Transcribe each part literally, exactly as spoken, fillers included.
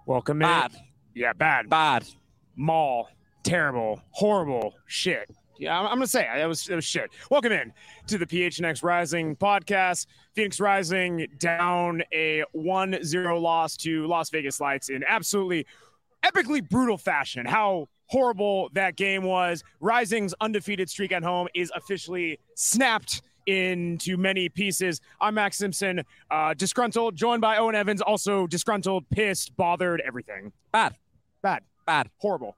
Welcome in. Bad. Yeah, bad. Bad. Mall. Terrible. Horrible. Shit. Yeah, I'm, I'm going to say it was, it was shit. Welcome in to the P H N X Rising podcast. Phoenix Rising down a one zero loss to Las Vegas Lights in absolutely epically brutal fashion. How horrible that game was. Rising's undefeated streak at home is officially snapped into many pieces. I'm Max Simpson, uh, disgruntled, joined by Owen Evans, also disgruntled, pissed, bothered, everything. Bad. Bad. Bad. Horrible.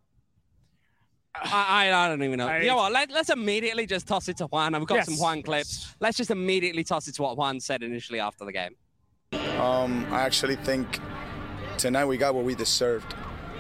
I, I don't even know. I, you know what? Let, let's immediately just toss it to Juan. I've got yes. some Juan clips. Let's just immediately toss it to what Juan said initially after the game. Um, I actually think tonight we got what we deserved.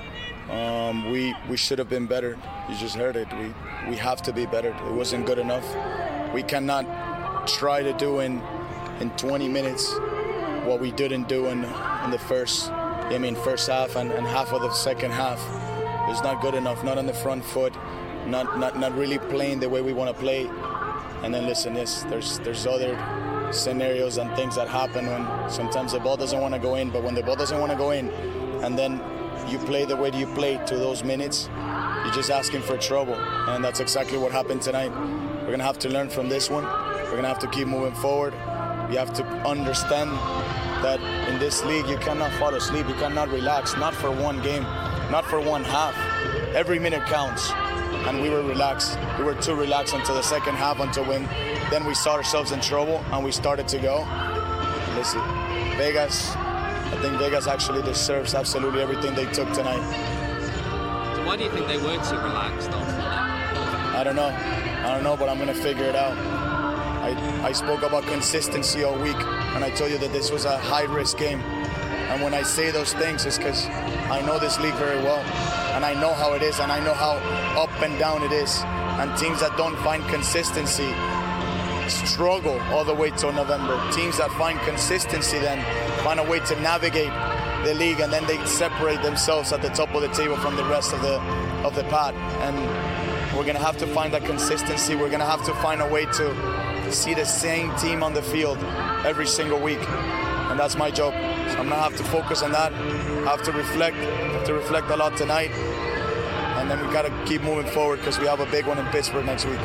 Um, we we should have been better. You just heard it. We we have to be better. It wasn't good enough. We cannot try to do in in twenty minutes what we didn't do in in the first. I mean, first half and, and half of the second half. It's not good enough. Not on the front foot. Not not not really playing the way we want to play. And then listen, this there's there's other scenarios and things that happen when sometimes the ball doesn't want to go in. But when the ball doesn't want to go in, and then you play the way you play to those minutes, you're just asking for trouble. And that's exactly what happened tonight. We're going to have to learn from this one. We're going to have to keep moving forward. We have to understand that in this league, you cannot fall asleep. You cannot relax, not for one game, not for one half. Every minute counts. And we were relaxed. We were too relaxed until the second half, until when then we saw ourselves in trouble and we started to go. Listen, Vegas, I think Vegas actually deserves absolutely everything they took tonight. So why do you think they weren't too relaxed after that? I don't know. I don't know, but I'm going to figure it out. I, I spoke about consistency all week, and I told you that this was a high-risk game. And when I say those things, it's because I know this league very well, and I know how it is, and I know how up and down it is. And teams that don't find consistency struggle all the way till November. Teams that find consistency then find a way to navigate the league, and then they separate themselves at the top of the table from the rest of the of the pot. And we're gonna have to find that consistency. We're gonna have to find a way to see the same team on the field every single week, and that's my job. So I'm gonna have to focus on that. I have to reflect. I have to reflect a lot tonight, and then we gotta keep moving forward because we have a big one in Pittsburgh next week.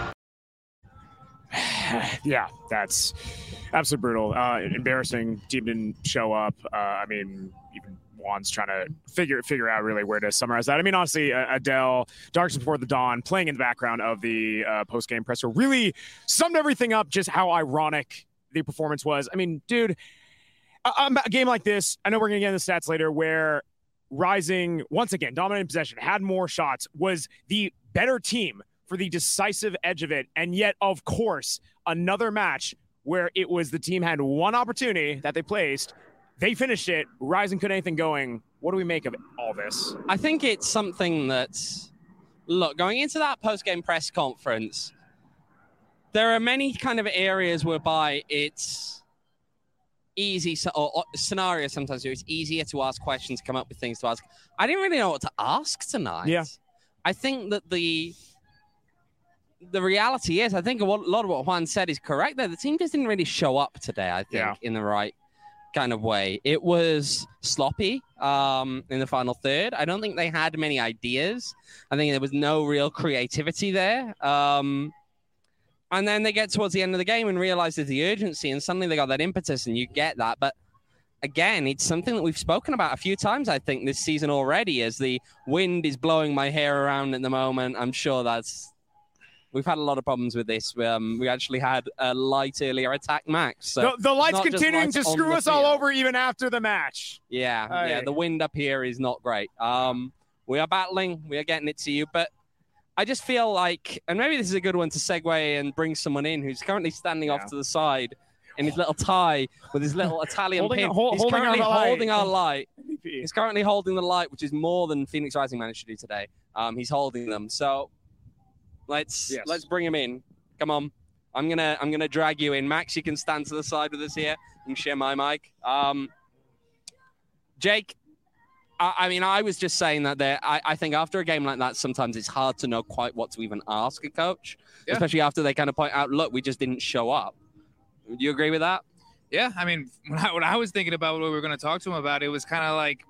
Yeah, that's absolutely brutal. Uh, embarrassing. Team didn't show up. Uh, I mean, even Juan's trying to figure figure out really where to summarize that. I mean, honestly, uh, Adele, Darks Before the Dawn, playing in the background of the uh, post-game presser, really summed everything up, just how ironic the performance was. I mean, dude, a, a game like this, I know we're going to get into the stats later, where Rising, once again, dominating possession, had more shots, was the better team for the decisive edge of it. And yet, of course, another match where it was the team had one opportunity that they placed. They finished it. Rising couldn't anything going. What do we make of all this? I think it's something that's, look, going into that post-game press conference, there are many kind of areas whereby it's easy, or, or scenarios sometimes where it's easier to ask questions, come up with things to ask. I didn't really know what to ask tonight. Yeah. I think that the the reality is, I think a lot of what Juan said is correct there. The team just didn't really show up today, I think, yeah. in the right kind of way. It was sloppy um, in the final third. I don't think they had many ideas. I think there was no real creativity there. Um, and then they get towards the end of the game and realize there's the urgency, and suddenly they got that impetus, and you get that. But again, it's something that we've spoken about a few times, I think, this season already, as the wind is blowing my hair around at the moment. I'm sure that's... We've had a lot of problems with this. Um, we actually had a light earlier attack Max. So the, the light's continuing to screw us all over even after the match. Yeah, oh, yeah. The wind up here is not great. Um, we are battling. We are getting it to you. But I just feel like, and maybe this is a good one to segue and bring someone in who's currently standing yeah. off to the side in his little tie with his little Italian holding, pin. Hold, He's holding currently our holding our light. He's currently holding the light, which is more than Phoenix Rising managed to do today. Um, he's holding them. So let's yes. let's bring him in. Come on. I'm gonna I'm gonna drag you in. Max, you can stand to the side with us here and share my mic. Um, Jake, I, I mean, I was just saying that there. I, I think after a game like that, sometimes it's hard to know quite what to even ask a coach, yeah. especially after they kind of point out, look, we just didn't show up. Do you agree with that? Yeah, I mean, when I, when I was thinking about what we were going to talk to him about, it was kind of like,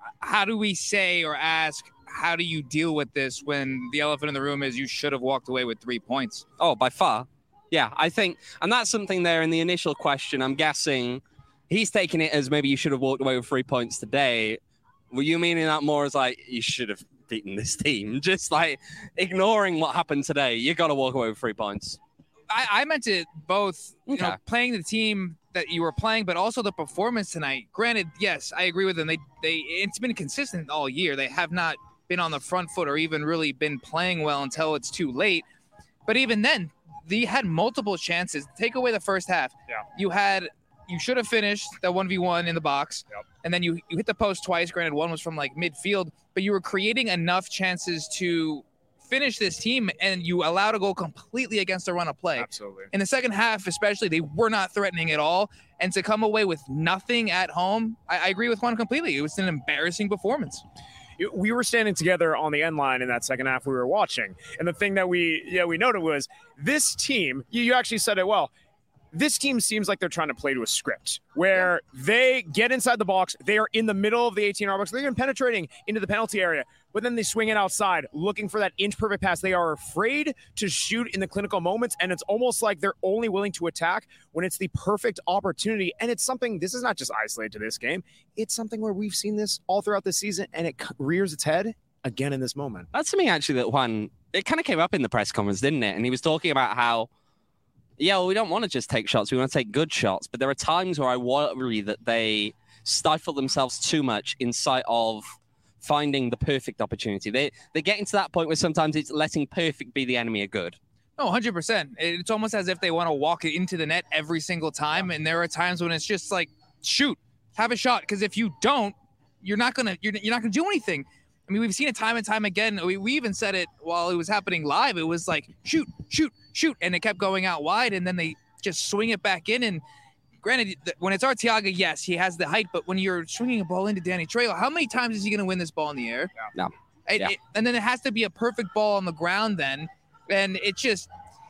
how do we say or ask, how do you deal with this when the elephant in the room is you should have walked away with three points? Oh, by far. Yeah, I think, and that's something there in the initial question. I'm guessing he's taking it as maybe you should have walked away with three points today. Were you meaning that more as like, you should have beaten this team? Just like ignoring what happened today, you got to walk away with three points. I, I meant it both, you Okay. know, playing the team that you were playing, but also the performance tonight. Granted, yes, I agree with them. They, they, it's been consistent all year. They have not been on the front foot or even really been playing well until it's too late. But even then, they had multiple chances. Take away the first half. Yeah. You had, you should have finished that one v one in the box. Yep. And then you, you hit the post twice. Granted, one was from like midfield, but you were creating enough chances to finish this team, and you allowed a goal completely against the run of play. Absolutely. In the second half, especially, they were not threatening at all. And to come away with nothing at home, I, I agree with Juan completely. It was an embarrassing performance. We were standing together on the end line in that second half we were watching. And the thing that we yeah we noted was this team, you, you actually said it well, this team seems like they're trying to play to a script where yeah. they get inside the box, they are in the middle of the eighteen-yard box, they're even penetrating into the penalty area, but then they swing it outside, looking for that inch-perfect pass. They are afraid to shoot in the clinical moments, and it's almost like they're only willing to attack when it's the perfect opportunity. And it's something, this is not just isolated to this game, it's something where we've seen this all throughout the season, and it rears its head again in this moment. That's something actually that Juan, it kind of came up in the press conference, didn't it? And he was talking about how, yeah, well, we don't want to just take shots. We want to take good shots. But there are times where I worry that they stifle themselves too much in sight of finding the perfect opportunity. They, they're getting to that point where sometimes it's letting perfect be the enemy of good. No, one hundred percent. It's almost as if they want to walk it into the net every single time. And there are times when it's just like, shoot, have a shot. Because if you don't, you're not going to you're, you're not going to do anything. I mean, we've seen it time and time again. We, we even said it while it was happening live. It was like, shoot, shoot, shoot. And it kept going out wide. And then they just swing it back in. And granted, when it's Arteaga, yes, he has the height. But when you're swinging a ball into Danny Trejo, how many times is he going to win this ball in the air? No. It, Yeah. it, and then it has to be a perfect ball on the ground then. And it just,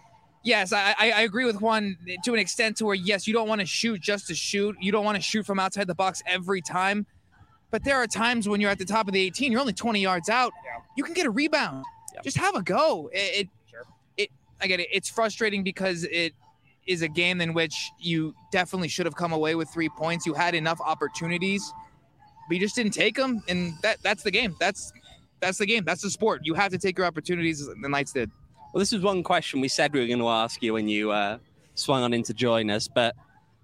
yes, I, I, I agree with Juan to an extent to where, yes, you don't want to shoot just to shoot. You don't want to shoot from outside the box every time. But there are times when you're at the top of the eighteen, you're only twenty yards out. Yeah. You can get a rebound. Yeah. Just have a go. It, it, Sure. it, I get it. It's frustrating because it is a game in which you definitely should have come away with three points. You had enough opportunities, but you just didn't take them. And that that's the game. That's that's the game. That's the sport. You have to take your opportunities. The Knights did. Well, this is one question we said we were going to ask you when you uh, swung on in to join us. But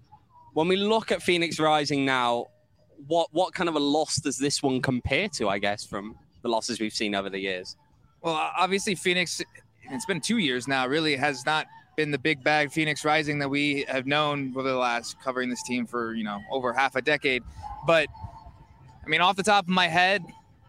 when we look at Phoenix Rising now, what what kind of a loss does this one compare to, I guess, from the losses we've seen over the years? Well, obviously, Phoenix, it's been two years now, really has not been the big bag Phoenix Rising that we have known over the last, covering this team for, you know, over half a decade. But, I mean, off the top of my head,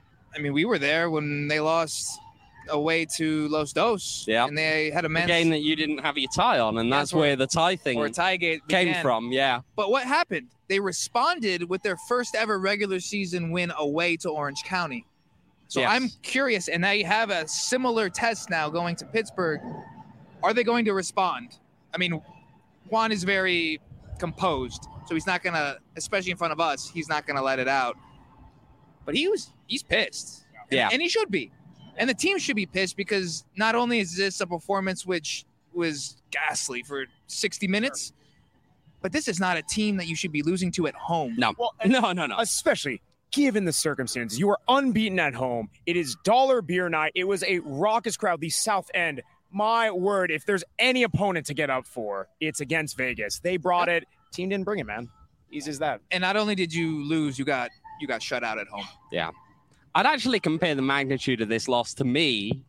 I mean, we were there when they lost away to Los Dos. Yeah. And they had a A men's game that you didn't have your tie on, and Yeah, that's or- where the tie thing or tie gate came began. from, yeah. But what happened? They responded with their first ever regular season win away to Orange County. So Yes. I'm curious, and they have a similar test now going to Pittsburgh. Are they going to respond? I mean, Juan is very composed, so he's not going to, especially in front of us, he's not going to let it out. But he was, he's pissed. Yeah. And, and he should be. And the team should be pissed because not only is this a performance which was ghastly for sixty minutes, but this is not a team that you should be losing to at home. No, Well, and no, no, no. especially given the circumstances. You are unbeaten at home. It is dollar beer night. It was a raucous crowd, the South End. My word, if there's any opponent to get up for, it's against Vegas. They brought it. Team didn't bring it, man. Easy as that. And not only did you lose, you got you got shut out at home. Yeah. I'd actually compare the magnitude of this loss to me.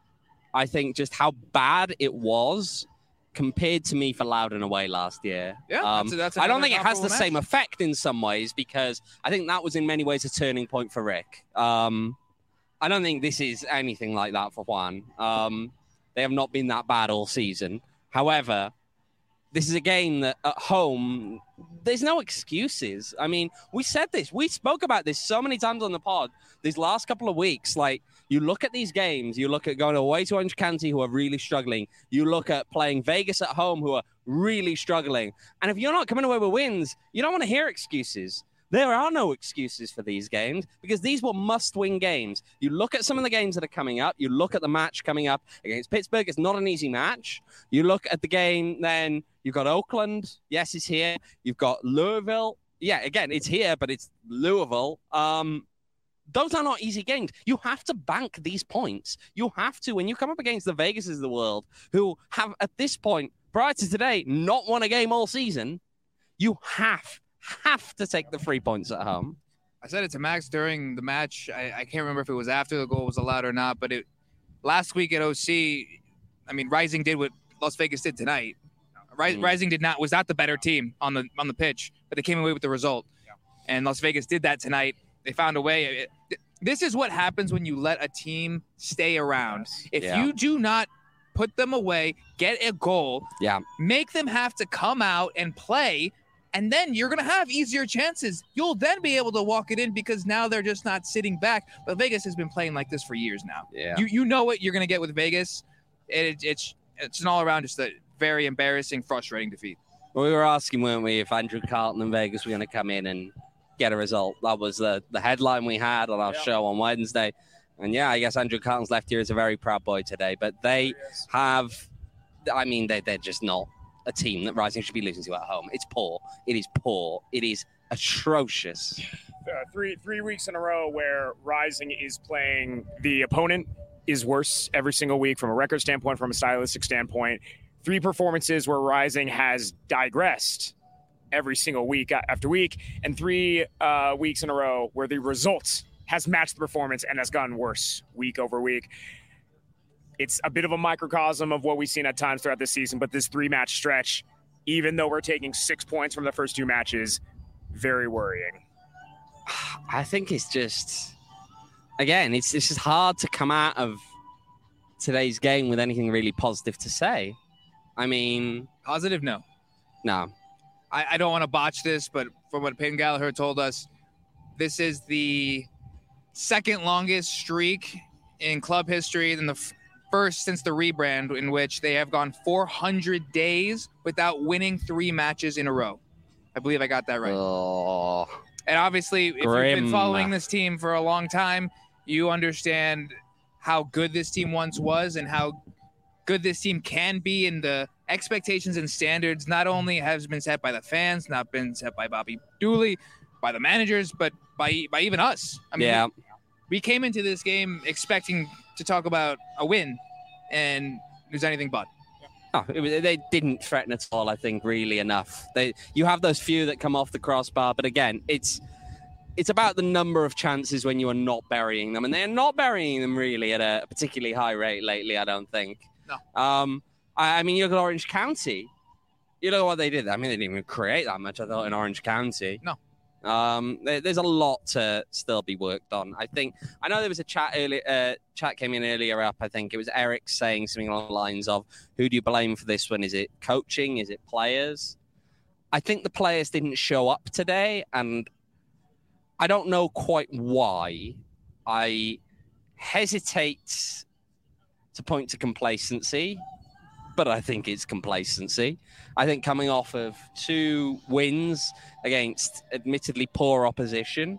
I think just how bad it was compared to me for Loudoun away last year. Yeah, Um, that's- that's I don't another think it has the comparable same match. effect in some ways because I think that was in many ways a turning point for Rick. Um, I don't think this is anything like that for Juan. Um, they have not been that bad all season. However, this is a game that at home, there's no excuses. I mean, we said this. We spoke about this so many times on the pod these last couple of weeks. Like, you look at these games, you look at going away to Orange County, who are really struggling. You look at playing Vegas at home, who are really struggling. And if you're not coming away with wins, you don't want to hear excuses. There are no excuses for these games because these were must-win games. You look at some of the games that are coming up. You look at the match coming up against Pittsburgh. It's not an easy match. You look at the game, then you've got Oakland. Yes, it's here. You've got Louisville. Yeah, again, it's here, but it's Louisville. Um, those are not easy games. You have to bank these points. You have to. When you come up against the Vegases of the world, who have, at this point, prior to today, not won a game all season, you have have to take the three points at home. I said it to Max during the match. I, I can't remember if it was after the goal was allowed or not, but it last week at O C, I mean, Rising did what Las Vegas did tonight. Ri- mm. Rising did not was not the better team on the on the pitch, but they came away with the result. Yeah. And Las Vegas did that tonight. They found a way. It, this is what happens when you let a team stay around. If yeah. you do not put them away, get a goal, yeah, make them have to come out and play. And then you're going to have easier chances. You'll then be able to walk it in because now they're just not sitting back. But Vegas has been playing like this for years now. Yeah. You you know what you're going to get with Vegas. It, it's it's an all-around just a very embarrassing, frustrating defeat. Well, we were asking, weren't we, if Andrew Carlton and Vegas were going to come in and get a result. That was the, the headline we had on our yeah. show on Wednesday. And, yeah, I guess Andrew Carlton's left here is a very proud boy today. But they have, I mean, they, they're just not a team that Rising should be losing to at home. It's poor. It is poor. It is atrocious. Uh, three three weeks in a row where Rising is playing the opponent is worse every single week from a record standpoint, from a stylistic standpoint. Three performances where Rising has digressed every single week after week, and three uh, weeks in a row where the results has matched the performance and has gotten worse week over week. It's a bit of a microcosm of what we've seen at times throughout this season, but this three-match stretch, even though we're taking six points from the first two matches, very worrying. I think it's just, again, it's, it's just hard to come out of today's game with anything really positive to say. I mean... Positive? No. No. I, I don't want to botch this, but from what Peyton Gallagher told us, this is the second longest streak in club history than the... F- First since the rebrand, in which they have gone four hundred days without winning three matches in a row. I believe I got that right. Oh, and obviously, if grim. you've been following this team for a long time, you understand how good this team once was and how good this team can be. And the expectations and standards not only has been set by the fans, not been set by Bobby Dooley, by the managers, but by by even us. I mean, yeah. we, we came into this game expecting to talk about a win, and it was anything but. Oh, it was, they didn't threaten at all, I think, really enough. They, you have those few that come off the crossbar, but again, it's it's about the number of chances when you are not burying them, and they're not burying them really at a particularly high rate lately, I don't think. No. Um, I, I mean, you look at Orange County. You look at what they did. I mean, they didn't even create that much, I thought, in Orange County. No. Um, there, there's a lot to still be worked on. I think I know there was a chat earlier. Uh, chat came in earlier up. I think it was Eric saying something along the lines of, "Who do you blame for this one? Is it coaching? Is it players?" I think the players didn't show up today, and I don't know quite why. I hesitate to point to complacency, but I think it's complacency. I think coming off of two wins against admittedly poor opposition,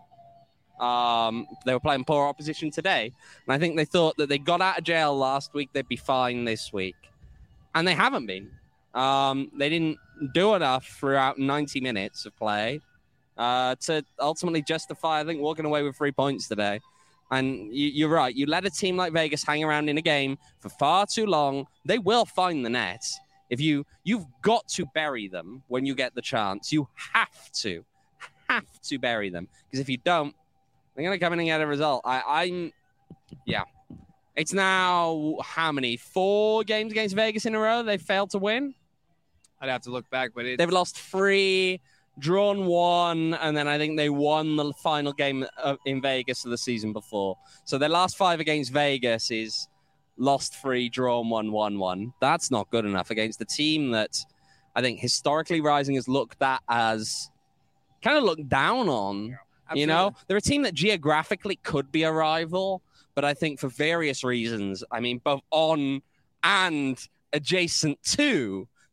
um, they were playing poor opposition today, and I think they thought that they got out of jail last week, they'd be fine this week, and they haven't been. Um, they didn't do enough throughout ninety minutes of play uh, to ultimately justify, I think, walking away with three points today. And you, you're right. You let a team like Vegas hang around in a game for far too long, they will find the net. If you, you've got to bury them when you get the chance. You have to, have to bury them. Because if you don't, they're going to come in and get a result. I, I'm, yeah. It's now, how many? Four games against Vegas in a row they've failed to win? I'd have to look back, but it's... They've lost three, drawn one, and then I think they won the final game in Vegas of the season before. So their last five against Vegas is lost three, drawn one, won one. That's not good enough against the team that I think historically Rising has looked at as kind of looked down on. Yeah, you know, they're a team that geographically could be a rival, but I think for various reasons, I mean, both on and adjacent to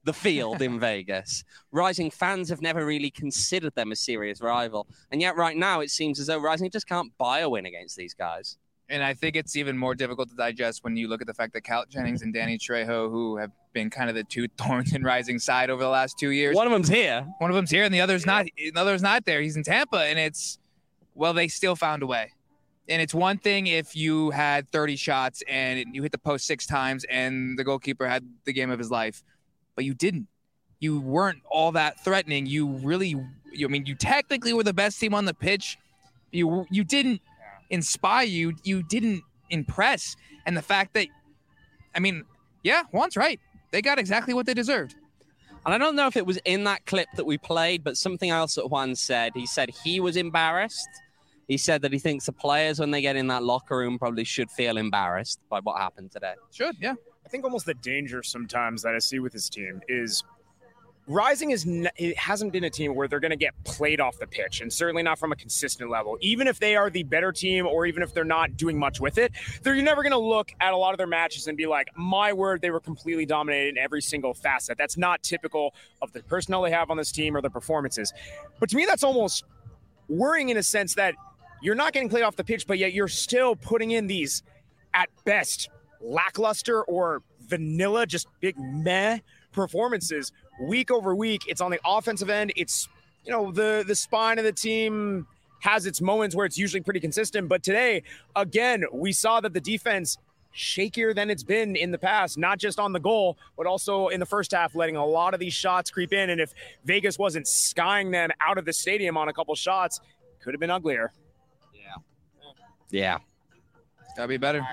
the field in Vegas. Rising fans have never really considered them a serious rival. And yet right now it seems as though Rising just can't buy a win against these guys. And I think it's even more difficult to digest when you look at the fact that Cal Jennings and Danny Trejo, who have been kind of the two thorns in Rising side over the last two years. One of them's here. One of them's here and the other's not. The other's not there. He's in Tampa. And it's, well, they still found a way. And it's one thing if you had thirty shots and you hit the post six times and the goalkeeper had the game of his life, but you didn't. You weren't all that threatening. You really, you, I mean, you technically were the best team on the pitch. You you didn't inspire. You you didn't impress. And the fact that, I mean, yeah, Juan's right. They got exactly what they deserved. And I don't know if it was in that clip that we played, but something else that Juan said. He said he was embarrassed. He said that he thinks the players, when they get in that locker room, probably should feel embarrassed by what happened today. Should, yeah. I think almost the danger sometimes that I see with this team is Rising is n- it hasn't been a team where they're going to get played off the pitch, and certainly not from a consistent level. Even if they are the better team, or even if they're not doing much with it, they're you're never going to look at a lot of their matches and be like, my word, they were completely dominated in every single facet. That's not typical of the personnel they have on this team or their performances. But to me, that's almost worrying in a sense that you're not getting played off the pitch, but yet you're still putting in these, at best, lackluster or vanilla, just big meh performances week over week. It's on the offensive end. It's, you know, the the spine of the team has its moments where it's usually pretty consistent. But today, again, we saw that the defense shakier than it's been in the past, not just on the goal, but also in the first half, letting a lot of these shots creep in. And if Vegas wasn't skying them out of the stadium on a couple shots, could have been uglier. Yeah. Gotta be better.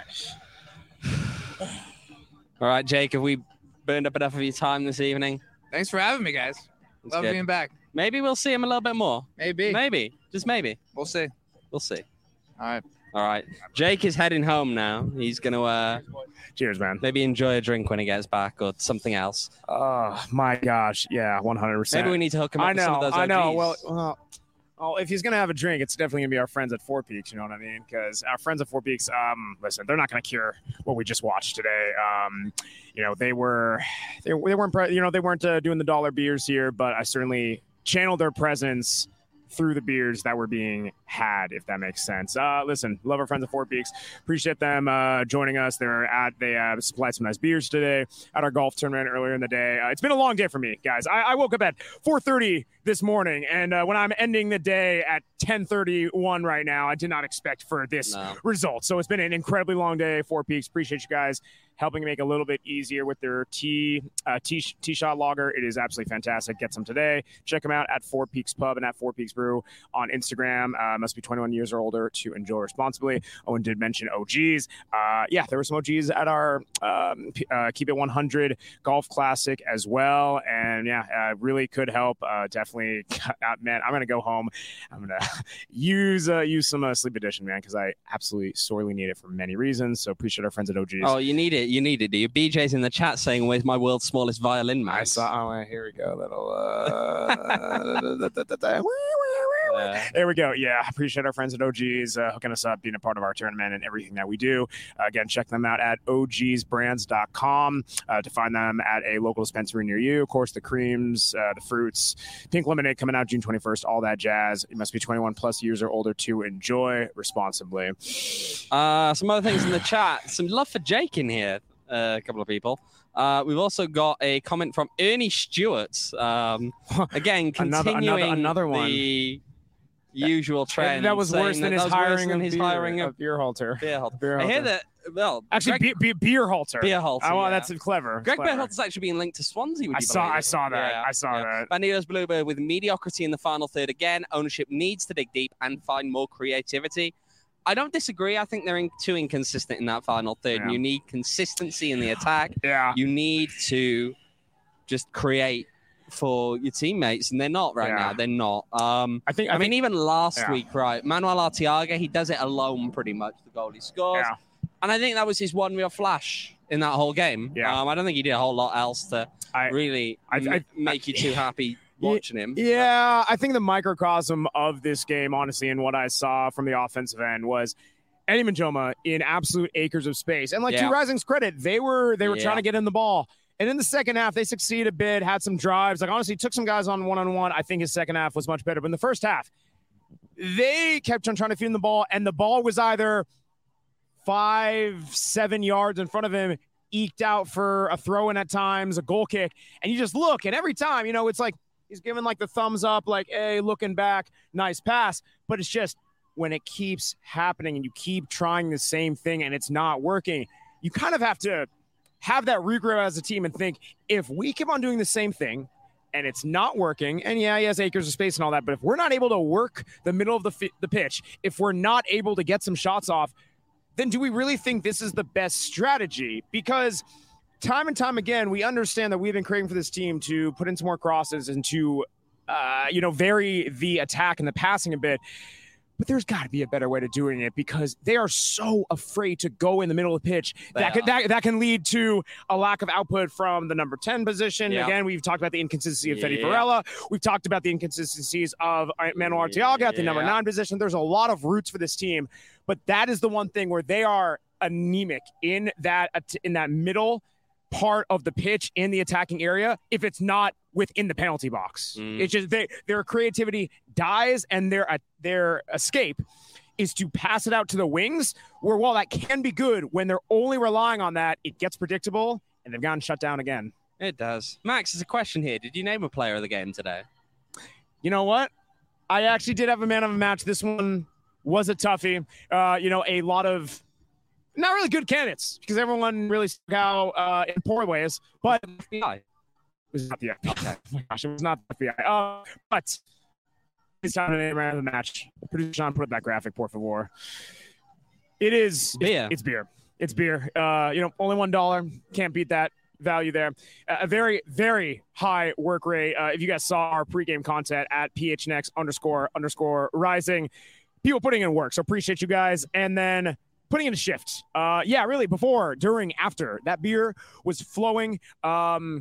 All right, Jake, have we burned up enough of your time this evening? Thanks for having me, guys. That's Love good. being back. Maybe we'll see him a little bit more. Maybe. Maybe. Just maybe. We'll see. We'll see. All right. All right. Jake is heading home now. He's going to uh, Cheers, man. maybe enjoy a drink when he gets back or something else. Oh, my gosh. Yeah, one hundred percent. Maybe we need to hook him up I with know, some of those O Gs. I know. Well, well, well, if he's going to have a drink, it's definitely going to be our friends at Four Peaks, you know what I mean? Because our friends at Four Peaks, um, listen, they're not going to cure what we just watched today. Um, you know, they were, they, they weren't, pre- you know, they weren't uh, doing the dollar beers here, but I certainly channeled their presence through the beers that were being had, if that makes sense. Uh, listen, love our friends at Four Peaks. Appreciate them uh, joining us. They're at they uh, supplied some nice beers today at our golf tournament earlier in the day. Uh, it's been a long day for me, guys. I, I woke up at four thirty this morning, and uh, when I'm ending the day at ten thirty-one right now, I did not expect for this No. result. So it's been an incredibly long day. Four Peaks, appreciate you guys helping make a little bit easier with their tea uh, tea, tea shot lager. It is absolutely fantastic. Get some today. Check them out at Four Peaks Pub and at Four Peaks Brew on Instagram. Uh, must be twenty-one years or older to enjoy responsibly. Owen did mention O Gs. Uh, yeah, there were some O Gs at our um, uh, Keep It one hundred Golf Classic as well. And yeah, uh, really could help. Uh, definitely, uh, man, I'm going to go home. I'm going to use uh, use some uh, Sleep Edition, man, because I absolutely sorely need it for many reasons. So appreciate our friends at O Gs. Oh, you need it. You need it, do you? B J's in the chat saying, where's my world's smallest violin mouse? I saw. Oh, here we go. Little. Uh, Uh, there we go. Yeah, appreciate our friends at O Gs uh, hooking us up, being a part of our tournament and everything that we do. Uh, again, check them out at O Gs brands dot com uh, to find them at a local dispensary near you. Of course, the creams, uh, the fruits, pink lemonade coming out June twenty-first, all that jazz. You must be twenty-one plus years or older to enjoy responsibly. Uh, some other things in the chat. Some love for Jake in here. Uh, a couple of people. Uh, we've also got a comment from Ernie Stewart. Um, again, Another- continuing another- another one. the usual trend. that was saying worse than that his that was worse hiring than of his beer, hiring of of beer halter. beer halter. Beer I hear halter. that. Well, Actually, Greg, be, be, beer halter. beer halter. Oh, well, yeah. that's clever. Greg Clever. Berhalter's actually being linked to Swansea. Would I you saw. believe? I saw that. Yeah, I saw yeah. that. Bandidos Bluebird with mediocrity in the final third again. Ownership needs to dig deep and find more creativity. I don't disagree. I think they're in, too inconsistent in that final third. Yeah. You need consistency in the attack. Yeah. You need to just create for your teammates, and they're not right Yeah. now. They're not. Um, I think. I, I, mean, think, even last yeah. week, right? Manuel Arteaga, he does it alone pretty much, the goal he scores. Yeah. And I think that was his one real flash in that whole game. Yeah. Um, I don't think he did a whole lot else to I- really I- m- I- make you too happy watching him. Yeah, I think the microcosm of this game, honestly, and what I saw from the offensive end was Eddie Majoma in absolute acres of space. And like Yeah. to Rising's credit, they were they were Yeah. trying to get in the ball And in the second half, they succeeded a bit, had some drives. Like, honestly, took some guys on one-on-one. I think his second half was much better. But in the first half, they kept on trying to feed him the ball, and the ball was either five, seven yards in front of him, eked out for a throw-in at times, a goal kick. And you just look, and every time, you know, it's like he's giving, like, the thumbs up, like, hey, looking back, nice pass. But it's just when it keeps happening and you keep trying the same thing and it's not working, you kind of have to have that regroup as a team and think, if we keep on doing the same thing and it's not working, and yeah, he has acres of space and all that, but if we're not able to work the middle of the, fi- the pitch, if we're not able to get some shots off, then do we really think this is the best strategy? Because time and time again, we understand that we've been craving for this team to put in some more crosses and to, uh, you know, vary the attack and the passing a bit. But there's got to be a better way to doing it, because they are so afraid to go in the middle of the pitch. That can, that, that can lead to a lack of output from the number ten position. Yeah. Again, we've talked about the inconsistency of Fede yeah. Varela. We've talked about the inconsistencies of Manuel Arteaga at the yeah. number nine position. There's a lot of roots for this team, but that is the one thing where they are anemic in that in that middle part of the pitch in the attacking area if it's not within the penalty box. Mm. It's just they, their creativity dies, and their uh, their escape is to pass it out to the wings, where while that can be good, when they're only relying on that, it gets predictable, and they've gotten shut down again. It does. Max, there's a question here. Did you name a player of the game today? You know what? I actually did have a man of the match. This one was a toughie. Uh, you know, a lot of not really good candidates, because everyone really stuck out uh, in poor ways, but F B I. It was not the F B I. Okay. Oh my gosh, it was not the F B I. Uh, but it's time to name around the match. Producer Sean, put up that graphic, por favor. It is beer. It's, it's beer. It's beer. Uh, you know, only one dollar. Can't beat that value there. Uh, a very, very high work rate. Uh, if you guys saw our pregame content at phnx underscore underscore rising, people putting in work. So appreciate you guys. And then putting in a shift. Uh, yeah, really. Before, during, after, that beer was flowing. Um,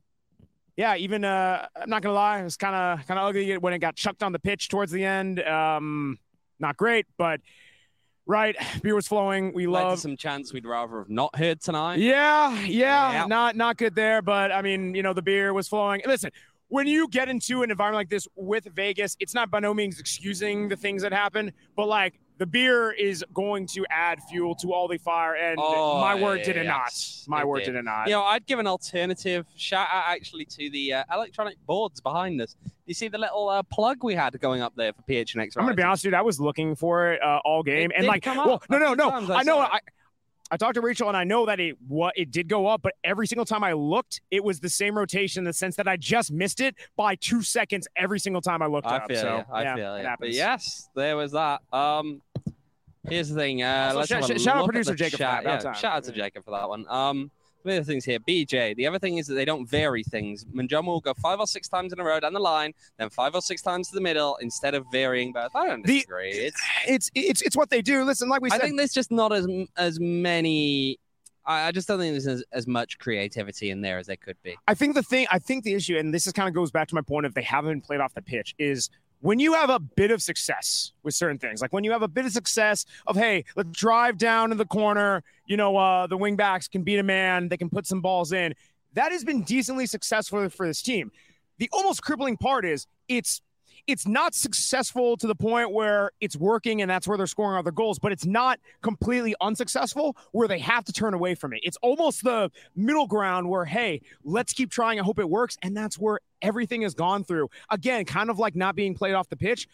Yeah, even uh, I'm not gonna lie, it was kind of kind of ugly when it got chucked on the pitch towards the end. Um, not great, but right, beer was flowing. We love some chants we'd rather have not heard tonight. Yeah, yeah, yeah, not not good there. But I mean, you know, the beer was flowing. Listen, when you get into an environment like this with Vegas, it's not by no means excusing the things that happen, but like, the beer is going to add fuel to all the fire, and oh, my word did it yes, not. My it word did. did it not. You know, I'd give an alternative shout out actually to the uh, electronic boards behind us. You see the little uh, plug we had going up there for P H N X? I'm gonna be honest, dude. I was looking for it uh, all game, it and like, well, no, no, no. I, I know. I, I talked to Rachel, and I know that it what it did go up, but every single time I looked, it was the same rotation in the sense that I just missed it by two seconds every single time I looked I up. Feel so you. I yeah, feel it it. happens. But yes, there was that. Um, here's the thing. Uh, so let's sh- have a sh- shout out look producer at the Jacob. Chat. For that, yeah, shout out to Jacob for that one. Um. The other things here, B J. The other thing is that they don't vary things. Manjoma will go five or six times in a row down the line, then five or six times to the middle instead of varying both. I don't disagree. The, it's, it's it's it's what they do. Listen, like we said, I think there's just not as as many. I, I just don't think there's as, as much creativity in there as there could be. I think the thing, I think the issue, and this is kind of goes back to my point of they haven't played off the pitch, is when you have a bit of success with certain things, like when you have a bit of success of, hey, let's drive down to the corner, you know, uh, the wing backs can beat a man, they can put some balls in. That has been decently successful for this team. The almost crippling part is it's it's not successful to the point where it's working and that's where they're scoring other goals, but it's not completely unsuccessful where they have to turn away from it. It's almost the middle ground where, hey, let's keep trying. I hope it works. And that's where everything has gone through. Again, kind of like not being played off the pitch.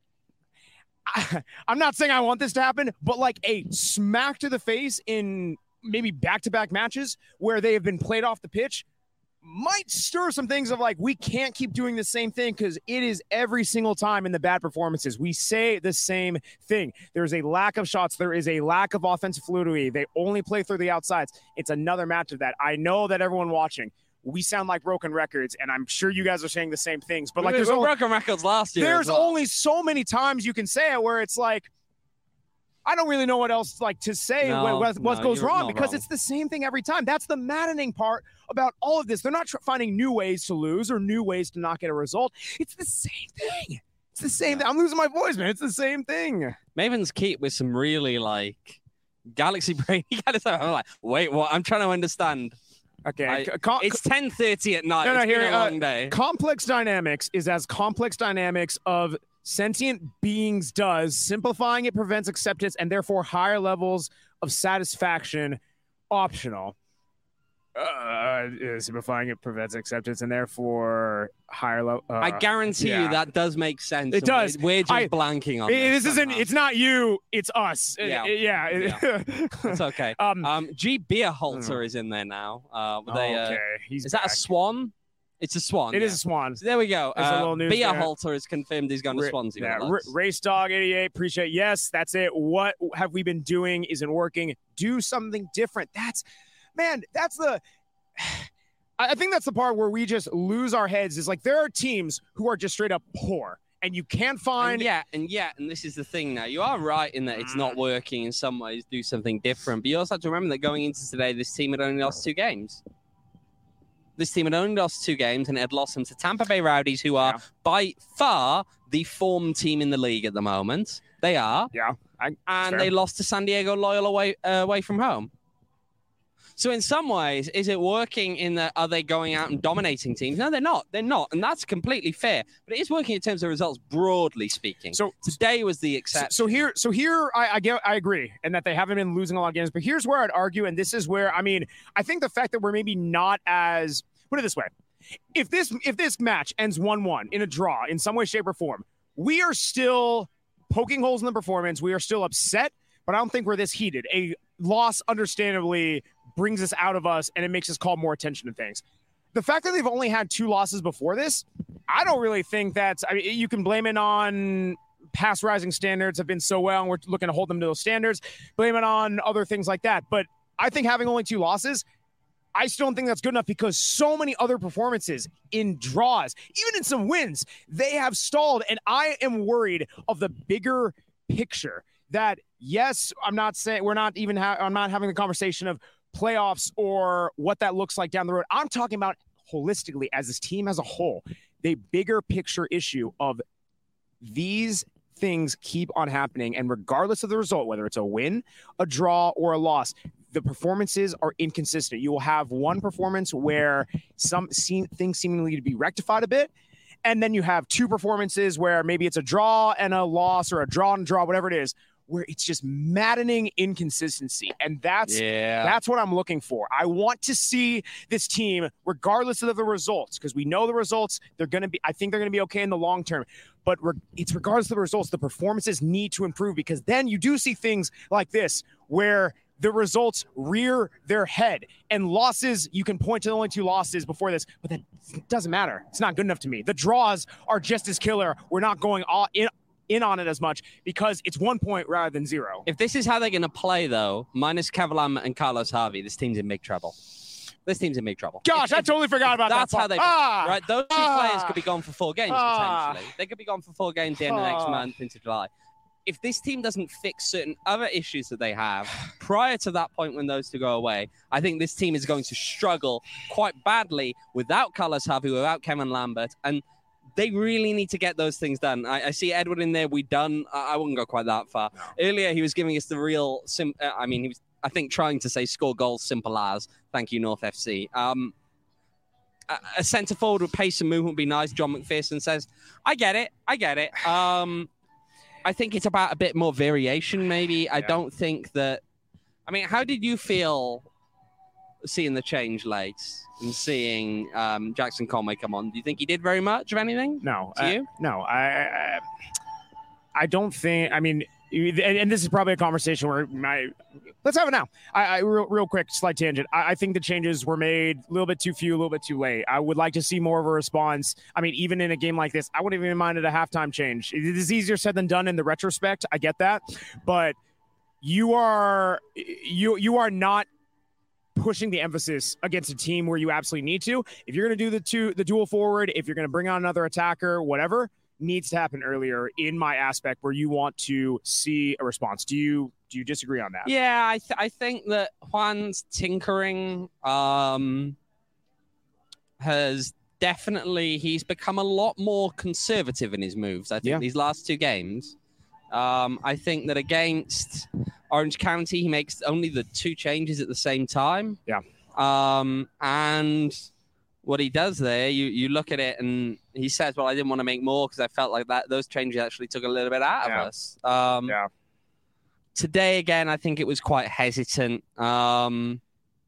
I, I'm not saying I want this to happen, but like a smack to the face in maybe back-to-back matches where they have been played off the pitch might stir some things of like, we can't keep doing the same thing, because it is every single time in the bad performances we say the same thing. There's a lack of shots. There is a lack of offensive fluidity. They only play through the outsides. It's another match of that. I know that everyone watching, we sound like broken records, and I'm sure you guys are saying the same things, but like we, there's we only, broken records last year. There's well. only so many times you can say it where it's like, I don't really know what else like to say no, what, what, what no, goes wrong, because wrong. It's the same thing every time. That's the maddening part about all of this. They're not tr- finding new ways to lose or new ways to not get a result. It's the same thing. It's the same yeah. thing. I'm losing my voice, man. It's the same thing. Maven's Keep with some really like galaxy brain kind of stuff. I'm like, wait, what? I'm trying to understand. Okay. I- Com- It's ten thirty at night. No, no, It's here, been a uh, long day. complex dynamics is as complex dynamics of sentient beings does. Simplifying it prevents acceptance and therefore higher levels of satisfaction optional. Uh, simplifying it prevents acceptance and therefore higher level. Uh, I guarantee yeah. you that does make sense. It and does. We're, we're just I- blanking on It- this. this isn't. somehow. It's not you. It's us. Yeah. Uh, yeah. It's okay. um. Um, G. Beerhalter is in there now. Uh, with a, uh, okay. He's is that a back. swan? It's a swan. It yeah. is a swan. So there we go. There's a Uh, little news there. Beerhalter is confirmed he's going to Ra- Swansea. Yeah, with the R- lads. Race Dog eighty-eight. Appreciate. Yes, that's it. What have we been doing? Isn't working. Do something different. That's, man. That's the. I I think that's the part where we just lose our heads. Is like there are teams who are just straight up poor, and you can't find. And yeah, and yeah, and this is the thing now. You are right in that it's not working in some ways. Do something different, but you also have to remember that going into today, this team had only lost two games. This team had only lost two games, and it had lost them to Tampa Bay Rowdies, who are Yeah. by far the form team in the league at the moment. They are, Yeah. I, and fair. they lost to San Diego Loyal away uh, away from home. So in some ways, is it working in that, are they going out and dominating teams? No, they're not. They're not. And that's completely fair. But it is working in terms of results, broadly speaking. So Today was the So, exception. so here, so here, I, I get, I agree, and that they haven't been losing a lot of games. But here's where I'd argue, and this is where I mean, I think the fact that we're maybe not as put it this way, if this if this match ends one one in a draw in some way, shape, or form, we are still poking holes in the performance. We are still upset, but I don't think we're this heated. A loss, understandably, brings us out of us, and it makes us call more attention to things. The fact that they've only had two losses before this, I don't really think that's. I mean, you can blame it on past rising standards have been so well, and we're looking to hold them to those standards. Blame it on other things like that. But I think having only two losses, I still don't think that's good enough because so many other performances in draws, even in some wins, they have stalled. And I am worried of the bigger picture that, yes, I'm not saying we're not even, ha- I'm not having the conversation of playoffs or what that looks like down the road. I'm talking about holistically as this team as a whole, the bigger picture issue of these things keep on happening. And regardless of the result, whether it's a win, a draw, or a loss, the performances are inconsistent. You will have one performance where some seem, things seemingly to be rectified a bit. And then you have two performances where maybe it's a draw and a loss or a draw and a draw, whatever it is, where it's just maddening inconsistency. And that's yeah. that's what I'm looking for. I want to see this team, regardless of the results, because we know the results, they're going to be, I think they're going to be okay in the long term. But re- it's regardless of the results, the performances need to improve, because then you do see things like this where the results rear their head, and losses, you can point to the only two losses before this, but that doesn't matter. It's not good enough to me. The draws are just as killer. We're not going all in in on it as much because it's one point rather than zero. If this is how they're going to play, though, minus Kavalam and Carlos Harvey, this team's in big trouble. This team's in big trouble. Gosh, If- I if- totally forgot about That's that. how they ah, right. Those two ah, players could be gone for four games ah, potentially. They could be gone for four games the end of next ah. month into July. If this team doesn't fix certain other issues that they have prior to that point when those two go away, I think this team is going to struggle quite badly without Carlos Harvey, without Kevin Lambert, and they really need to get those things done. I, I see Edward in there. We done. I, I wouldn't go quite that far. No. Earlier, he was giving us the real. Sim- uh, I mean, he was. I think trying to say score goals simple as. Thank you, North F C. Um, a, a centre forward with pace and movement would be nice. John McPherson says, "I get it. I get it." Um, I think it's about a bit more variation, maybe. I Yeah. don't think that. I mean, how did you feel seeing the change late and seeing um, Jackson Conway come on? Do you think he did very much of anything? No, To uh, you? no, I, I, I don't think. I mean, and, and this is probably a conversation where my. Let's have it now. I, I real, real quick, slight tangent. I, I think the changes were made a little bit too few, a little bit too late. I would like to see more of a response. I mean, even in a game like this, I wouldn't even mind it a halftime change. It is easier said than done in the retrospect. I get that, but you are you you are not pushing the emphasis against a team where you absolutely need to. If you're going to do the two, the dual forward, if you're going to bring on another attacker, whatever needs to happen earlier in my aspect where you want to see a response. Do you, do you disagree on that? Yeah, I, th- I think that Juan's tinkering um, has definitely, he's become a lot more conservative in his moves. I think Yeah. these last two games. Um, I think that against Orange County, he makes only the two changes at the same time. Yeah. Um, and what he does there, you, you look at it and he says, well, I didn't want to make more because I felt like that those changes actually took a little bit out Yeah. of us. Um, Yeah. Today, again, I think it was quite hesitant. Um,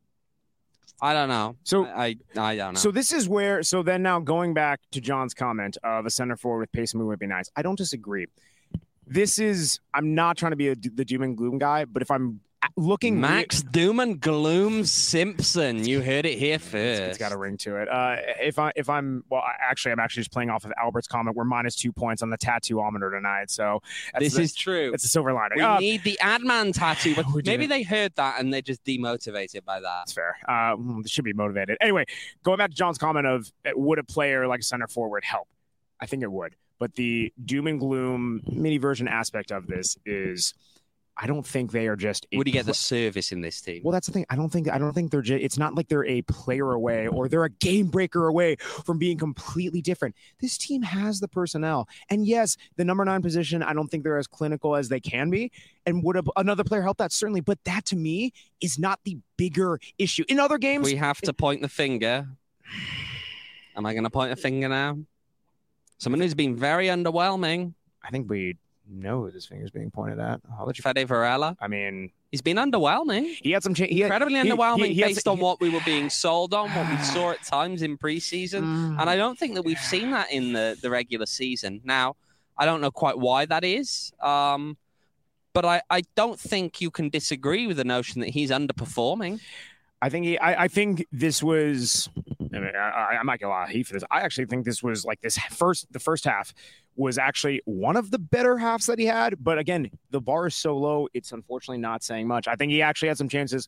I don't know. So- I, I, I don't know. So this is where. So then now going back to John's comment of a center forward with pace and movement would be nice. I don't disagree. This is. I'm not trying to be a, the doom and gloom guy, but if I'm looking, Max Doom and Gloom Simpson. You heard it here first. it's got a ring to it. Uh, if I if I'm well, I, actually, I'm actually just playing off of Albert's comment. We're minus two points on the tattoo-ometer tonight. So that's This the, is true. it's a silver lining. We Uh, need the Adman tattoo, but We do. maybe they heard that and they're just demotivated by that. That's fair. Uh, mm, they should be motivated. Anyway, going back to John's comment of uh, would a player like a center forward help? I think it would. But the doom and gloom mini version aspect of this is, I don't think they are just. a Would you get the pl- service in this team? Well, that's the thing. I don't think. I don't think they're. Just, it's not like they're a player away or they're a game breaker away from being completely different. This team has the personnel, and yes, the number nine position. I don't think they're as clinical as they can be. And would a, another player help that? Certainly, but that to me is not the bigger issue. In other games, We have to point the finger. Am I going to point a finger now? Someone who's been very underwhelming. I think we know who this finger's being pointed at. I'll let you. Fede Varela. I mean, He's been underwhelming. he had some. Cha- he had, Incredibly he- underwhelming he- he had based some- on what we were being sold on, what we saw at times in preseason. Mm. And I don't think that we've seen that in the, the regular season. Now, I don't know quite why that is. Um, but I, I don't think you can disagree with the notion that he's underperforming. I think he, I, I think this was. I mean, I, I might get a lot of heat for this. I actually think this was like this first. The first half was actually one of the better halves that he had. But again, the bar is so low; it's unfortunately not saying much. I think he actually had some chances.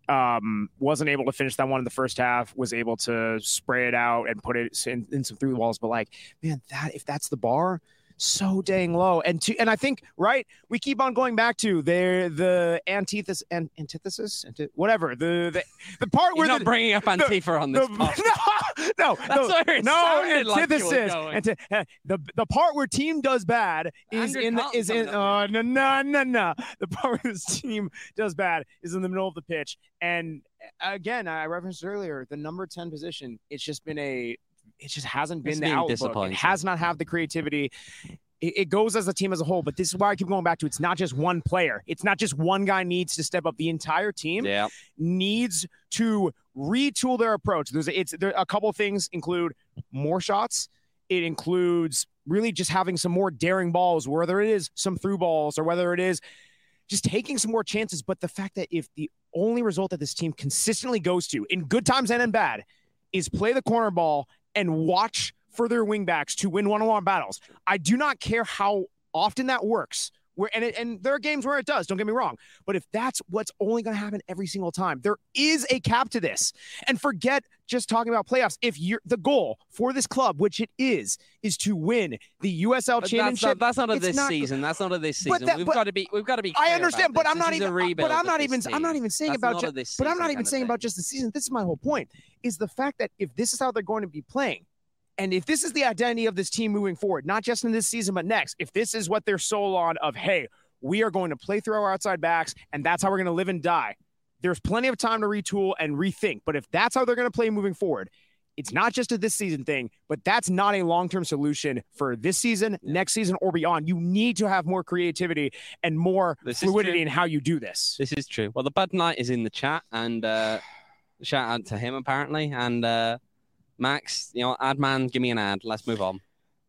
Um, wasn't able to finish that one in the first half. Was able to spray it out and put it in, in some through walls. But like, man, that if that's the bar. So dang low, and to and I think right, we keep on going back to the the antithesis and antithesis, anti- whatever the the, the part He's where not the, bringing up Antifa on this the, podcast. no, no, That's no, where it no, sounded like you were antithesis. going. Anti- uh, the the part where team does bad is Andrew in the Carlton's is in coming oh no no no no the part where this team does bad is in the middle of the pitch, and again I referenced earlier the number ten position. It's just been a it just hasn't been It's the been outlook. It disappointing. has not have the creativity. It, it goes as a team as a whole, but this is why I keep going back to it's not just one player. It's not just one guy needs to step up. The entire team Yeah. needs to retool their approach. There's it's there a couple of things include more shots. It includes really just having some more daring balls, whether it is some through balls or whether it is just taking some more chances. But the fact that if the only result that this team consistently goes to in good times and in bad is play the corner ball and watch for their wingbacks to win one-on-one battles. I do not care how often that works. Where and it, and there are games where it does. Don't get me wrong. But if that's what's only going to happen every single time, there is a cap to this. And forget just talking about playoffs. If you're the goal for this club, which it is, is to win the U S L But that's championship. not, that's not a it's this not- season. That's not a this But season. that- we've but- got to be. We've got to be. I clear understand, about but I'm this. not This is a even. rebuild But I'm of not this even. I'm team. not even saying That's about. not Ju- a this but I'm season not kind even of saying thing. about just the season. This is my whole point. Is the fact that if this is how they're going to be playing, and if this is the identity of this team moving forward, not just in this season but next, if this is what they're sold on of, hey, we are going to play through our outside backs, and that's how we're going to live and die. There's plenty of time to retool and rethink. But if that's how they're going to play moving forward, it's not just a this season thing, but that's not a long-term solution for this season, next season, or beyond. You need to have more creativity and more This is fluidity true. in how you do this. This is true. Well, the Bud Knight is in the chat, and uh, shout out to him apparently. And uh, Max, you know, ad man, give me an ad. Let's move on.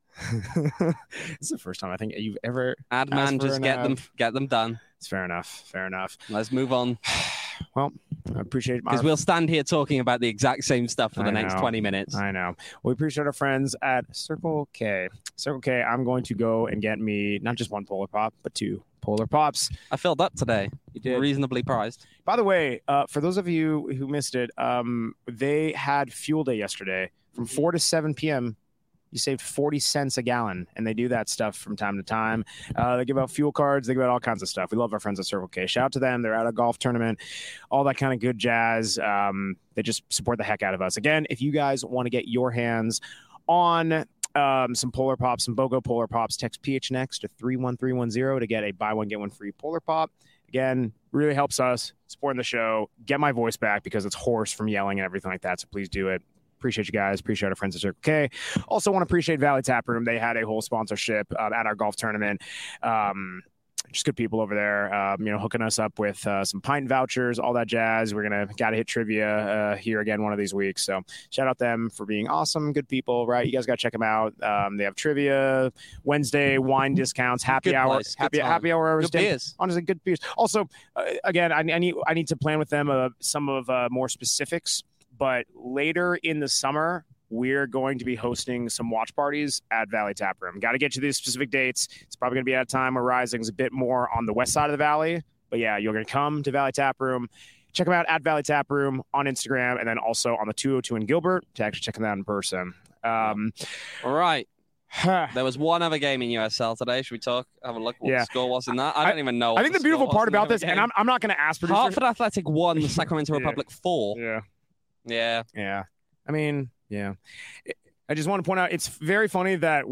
It's the first time I think you've ever. Ad Ask man, for just an get ad. them, get them done. It's fair enough. Fair enough. Let's move on Well, I appreciate my. because we'll stand here talking about the exact same stuff for the I next know. twenty minutes. I know. We appreciate our friends at Circle K. Circle K, I'm going to go and get me not just one Polar Pop, but two Polar Pops. I filled up today. You did. Reasonably priced. By the way, uh, for those of you who missed it, um, they had Fuel Day yesterday from four to seven p.m. You saved forty cents a gallon, and they do that stuff from time to time. Uh, they give out fuel cards. They give out all kinds of stuff. We love our friends at Circle K. Shout out to them. They're at a golf tournament, all that kind of good jazz. Um, they just support the heck out of us. Again, if you guys want to get your hands on um, some Polar Pops, some BOGO Polar Pops, text P H N X to three one three one zero to get a buy one, get one free Polar Pop. Again, really helps us supporting the show, get my voice back because it's hoarse from yelling and everything like that. So please do it. Appreciate you guys. Appreciate our friends at Circle K. Also want to appreciate Valley Tap Room. They had a whole sponsorship um, at our golf tournament. Um, just good people over there, um, you know, hooking us up with uh, some pint vouchers, all that jazz. We're going to got to hit trivia uh, here again one of these weeks. So shout out them for being awesome, good people, right? You guys got to check them out. Um, they have trivia, Wednesday, wine discounts, happy Good hour, place, good happy, time. happy hour. Good beers. Honestly, good beers. Also, uh, again, I, I need I need to plan with them uh, some of uh, more specifics, but later in the summer, we're going to be hosting some watch parties at Valley Tap Room. Got to get you these specific dates. It's probably going to be at a time where Rising's a bit more on the west side of the valley. But yeah, you're going to come to Valley Tap Room. Check them out at Valley Tap Room on Instagram and then also on the two oh two in Gilbert to actually check them out in person. Um, All right. There was one other game in U S L today. Should we talk? Have a look what Yeah. the score was in that? I don't even know. I what think the beautiful score part was in the about other this, and game. I'm, I'm not going to ask producers. Hartford Athletic won, the Sacramento Yeah. Republic four. Yeah. Yeah. Yeah. I mean, yeah. I just want to point out it's very funny that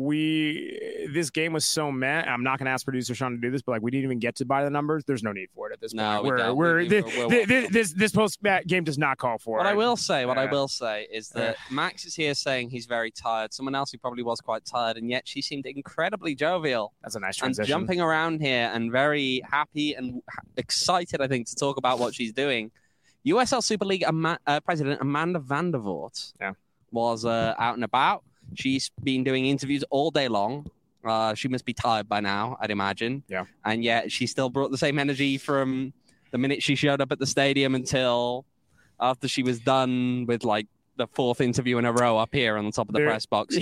we this game was so meh. I'm not going to ask producer Sean to do this, but like we didn't even get to buy the numbers. There's no need for it at this No, point. we we're don't. we're We- this we're- we're this, welcome. this this post game does not call for What it. I will say, what I Yeah. will say is that Max is here saying he's very tired. Someone else who probably was quite tired, and yet she seemed incredibly jovial That's a nice and transition. jumping around here and very happy and ha- excited, I think, to talk about what she's doing. U S L Super League Ama- uh, President Amanda Vandervoort Yeah. was uh, out and about. She's been doing interviews all day long. Uh, she must be tired by now, I'd imagine. Yeah. And yet she still brought the same energy from the minute she showed up at the stadium until after she was done with like the fourth interview in a row up here on the top of the There- press box.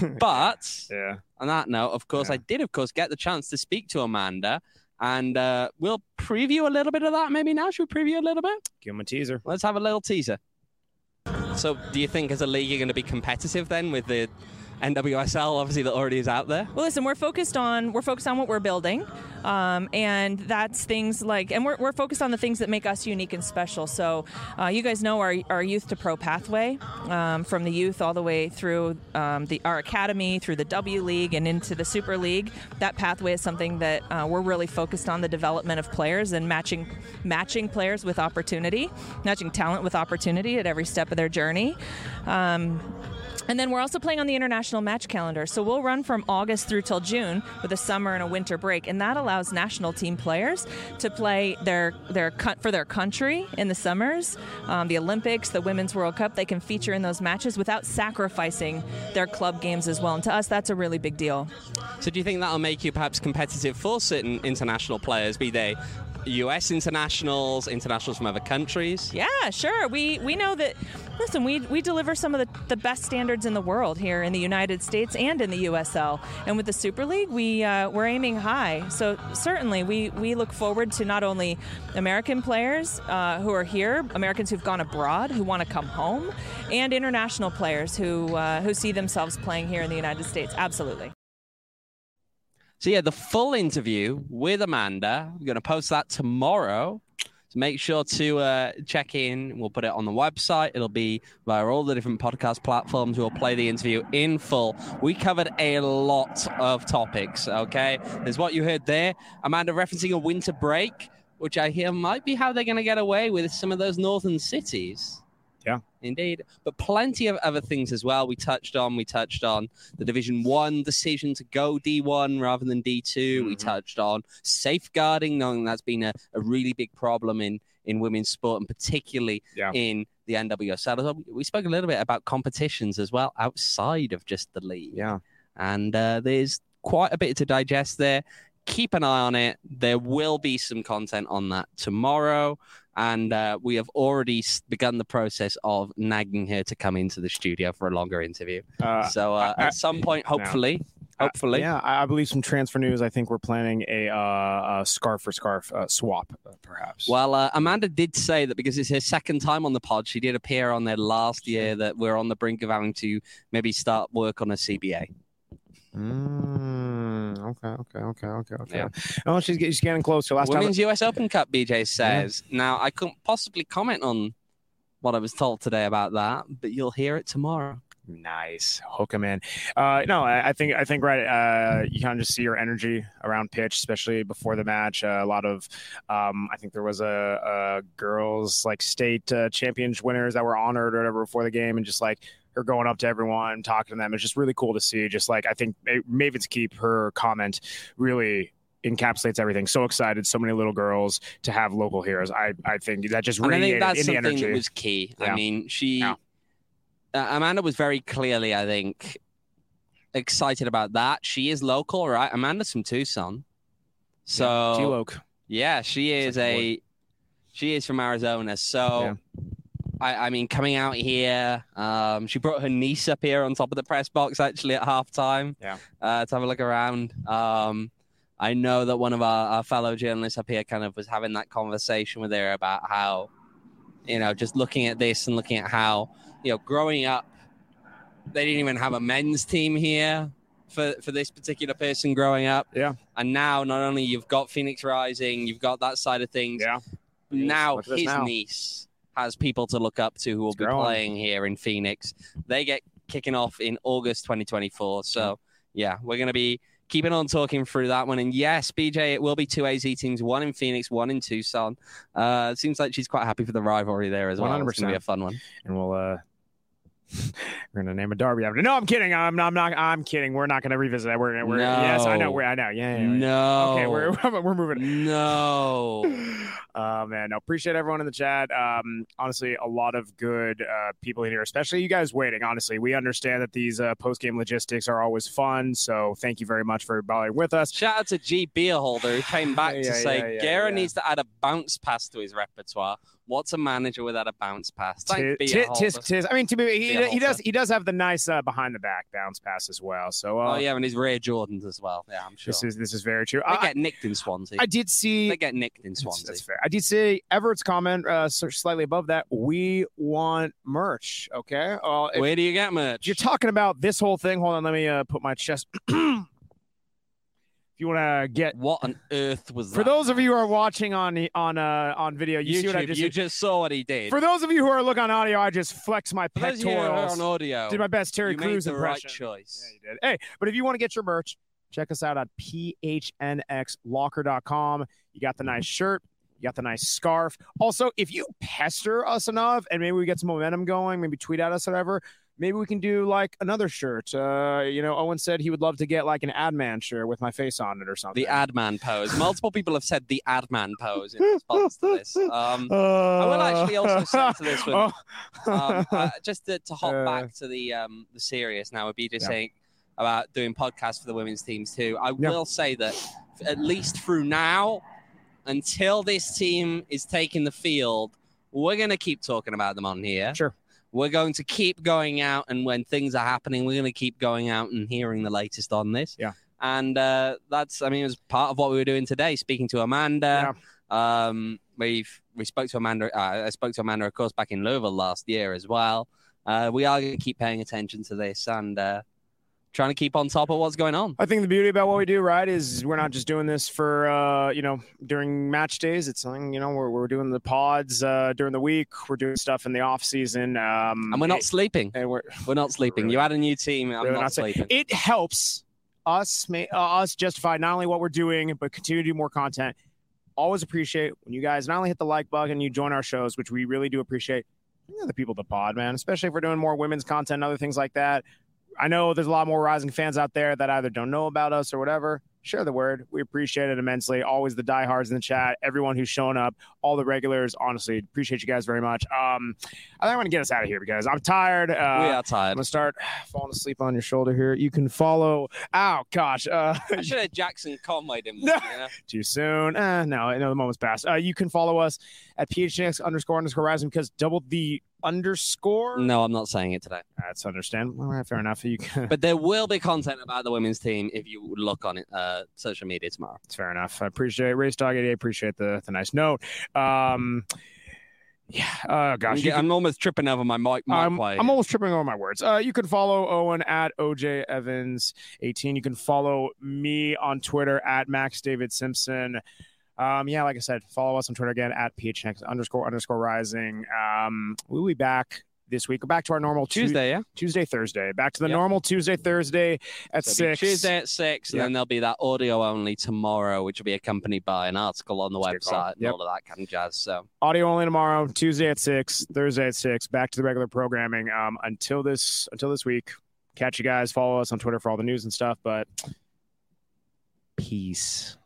But yeah. on that note, of course, Yeah. I did, of course, get the chance to speak to Amanda. And uh, we'll preview a little bit of that maybe now. Should we preview a little bit? Give him a teaser. Let's have a little teaser. So do you think as a league you're going to be competitive then with the N W S L, obviously, that already is out there? Well, listen, we're focused on we're focused on what we're building, um, and that's things like, and we're, we're focused on the things that make us unique and special. So, uh, you guys know our our youth to pro pathway, um, from the youth all the way through um, the our academy, through the W League, and into the Super League. That pathway is something that uh, we're really focused on, the development of players and matching matching players with opportunity, matching talent with opportunity at every step of their journey. Um, And then we're also playing on the international match calendar. So we'll run from August through till June with a summer and a winter break. And that allows national team players to play their their for their country in the summers, um, the Olympics, the Women's World Cup. They can feature in those matches without sacrificing their club games as well. And to us, that's a really big deal. So do you think that'll make you perhaps competitive for certain international players, be they U S internationals, internationals from other countries? Yeah, sure. We we know that, listen, we we deliver some of the, the best standards in the world here in the United States and in the U S L. And with the Super League, we, uh, we're aiming high. So certainly we, we look forward to not only American players uh, who are here, Americans who've gone abroad, who want to come home, and international players who uh, who see themselves playing here in the United States. Absolutely. So yeah, the full interview with Amanda, we're going to post that tomorrow. So make sure to uh, check in. We'll put it on the website. It'll be via all the different podcast platforms. We'll play the interview in full. We covered a lot of topics, okay? There's what you heard there. Amanda referencing a winter break, which I hear might be how they're going to get away with some of those northern cities. Yeah. Indeed. But plenty of other things as well. We touched on, we touched on the Division One decision to go D one rather than D two. Mm-hmm. We touched on safeguarding, knowing that's been a, a really big problem in, in women's sport and particularly Yeah. in the N W S L. We spoke a little bit about competitions as well outside of just the league. Yeah. And uh, there's quite a bit to digest there. Keep an eye on it. There will be some content on that tomorrow. And uh, we have already begun the process of nagging her to come into the studio for a longer interview. Uh, so uh, I, I, at some point, hopefully, uh, hopefully. Yeah, I believe some transfer news. I think we're planning a, uh, a scarf for scarf uh, swap, uh, perhaps. Well, uh, Amanda did say that because it's her second time on the pod, she did appear on there last year, that we're on the brink of having to maybe start work on a C B A. Mm, okay, okay, okay, okay, okay. Yeah. Oh, she's, she's getting closer. Last Women's time. U S Open Cup, B J says. Yeah. Now, I couldn't possibly comment on what I was told today about that, but you'll hear it tomorrow. Nice, hook him in. Uh, no, I, I think I think right. Uh, you kind of just see your energy around pitch, especially before the match. Uh, a lot of, um, I think there was a, a girls like state uh, championship winners that were honored or whatever before the game, and just like her going up to everyone, talking to them. It's just really cool to see. Just like I think Maven's Keep, her comment really encapsulates everything. So excited, so many little girls to have local heroes. I I think that just radiated and I think that's in the something energy. that was key. Yeah. I mean, she. Yeah. Uh, Amanda was very clearly, I think, excited about that. She is local, right? Amanda's from Tucson. So, yeah. T-Loc. yeah, she is a, she is from Arizona. So, Yeah. I, I mean, coming out here, um, she brought her niece up here on top of the press box, actually, at halftime. Yeah. Uh, to have a look around. Um, I know that one of our, our fellow journalists up here kind of was having that conversation with her about how, you know, just looking at this and looking at how, you know, growing up, they didn't even have a men's team here for, for this particular person growing up. Yeah. And now not only you've got Phoenix Rising, you've got that side of things. Yeah. Now Look at this his now. niece has people to look up to who will It's be growing. playing here in Phoenix. They get kicking off in August twenty twenty-four. So, yeah, we're going to be keeping on talking through that one. And yes, B J, it will be two A Z teams, one in Phoenix, one in Tucson. Uh, it seems like she's quite happy for the rivalry there as well. one hundred It's going to be a fun one. And we'll uh we're gonna name a derby after. No, I'm kidding. I'm I'm not. I'm kidding. We're not gonna revisit that. We're we're No. yes, I know. We're I know. Yeah. yeah, yeah. No. Okay, we're we're moving. No. Oh man, no, appreciate everyone in the chat. Um, honestly, a lot of good uh, people in here, especially you guys waiting. Honestly, we understand that these uh, post game logistics are always fun, so thank you very much for bothering with us. Shout out to G Beerholder who came back Yeah, to yeah, say yeah, yeah, Guerra yeah. needs to add a bounce pass to his repertoire. What's a manager without a bounce pass? Thank Tis, tis, tis, Beerholder. tis. I mean, to be he, Beerholder. he does he does have the nice uh, behind the back bounce pass as well. So uh, Oh yeah, and his Rare Jordans as well. Yeah, I'm sure. this is this is very true. They I, get nicked in Swansea. I did see. They get nicked in That's, Swansea. that's fair. I did see Everett's comment uh, so slightly above that. We want merch. Okay. Uh, if, Where do you get merch? if you're talking about this whole thing, hold on. Let me uh, put my chest. If you want to get, What on earth was that? for those of you who are watching on on uh, on video, you YouTube, see what I just you did. just saw what he did. For those of you who are looking on audio, I just flexed my For those of you who are pectorals. on audio, Did my best Terry you Crews made the right impression. choice. Yeah, you did. Hey, but if you want to get your merch, check us out at p h n x locker dot com. You got the nice shirt. You got the nice scarf. Also, if you pester us enough and maybe we get some momentum going, maybe tweet at us or whatever, maybe we can do like another shirt. Uh, you know, Owen said he would love to get like an Adman shirt with my face on it or something. The Adman pose. Multiple people have said the Adman pose in response to this. Um, Uh, I will actually also say to this one, oh. um, uh, just to, to hop Uh, back to the um, the serious now, would be just Yeah. saying about doing podcasts for the women's teams too. I Yeah. will say that at least through now, until this team is taking the field, we're going to keep talking about them on here. Sure. We're going to keep going out, and when things are happening, we're going to keep going out and hearing the latest on this. Yeah. And uh, that's, I mean, it was part of what we were doing today, speaking to Amanda. Um, we've we spoke to Amanda. Uh, I spoke to Amanda, of course, back in Louisville last year as well. Uh, we are going to keep paying attention to this and uh, trying to keep on top of what's going on. I think the beauty about what we do, right, is we're not just doing this for, uh, you know, during match days. It's something, you know, we're, we're doing the pods uh, during the week. We're doing stuff in the off season. Um, And we're not it- sleeping. and we're We're not sleeping. Really? You had a new team. I'm Really not, not saying- sleeping. it helps us, ma- uh, us justify not only what we're doing, but continue to do more content. Always appreciate when you guys not only hit the like button, you join our shows, which we really do appreciate. You know, the people at the pod, man, especially if we're doing more women's content and other things like that. I know there's a lot more Rising fans out there that either don't know about us or whatever. Share the word. We appreciate it immensely. Always the diehards in the chat, everyone who's shown up, all the regulars. Honestly, appreciate you guys very much. Um, I think I'm going to get us out of here because I'm tired. Uh, we are I'm tired. going to start falling asleep on your shoulder here. You can follow. Ow, gosh. Uh, I should have Jackson Conway'd him. No. You know? too soon. Eh, no, no, the moment's passed. Uh, you can follow us at P H N X underscore underscore Rising because double the underscore. No, I'm not saying it today. That's understandable. All right, fair enough. You can. But there will be content about the women's team if you look on it, uh, social media tomorrow. It's fair enough. I appreciate Race Dog eighty-eight. Appreciate the the nice note. Um, yeah. Oh I'm, gosh. you get- can- I'm almost tripping over my mic. mic I'm, way. I'm almost tripping over my words. Uh, you can follow Owen at O J Evans eighteen. You can follow me on Twitter at Max David Simpson. Um, yeah, like I said, follow us on Twitter again at P H N X underscore underscore Rising. Um, we'll be back this week. Back to our normal Tu- Tuesday, yeah. Tuesday, Thursday. Back to the Yep. normal Tuesday, Thursday at So it'll be six. Tuesday at six, and Yep. then there'll be that audio only tomorrow, which will be accompanied by an article on the That's a good call. website and Yep. all of that kind of jazz. So Audio only tomorrow, Tuesday at six, Thursday at six. Back to the regular programming. Um, until this until this week. Catch you guys. Follow us on Twitter for all the news and stuff. But peace.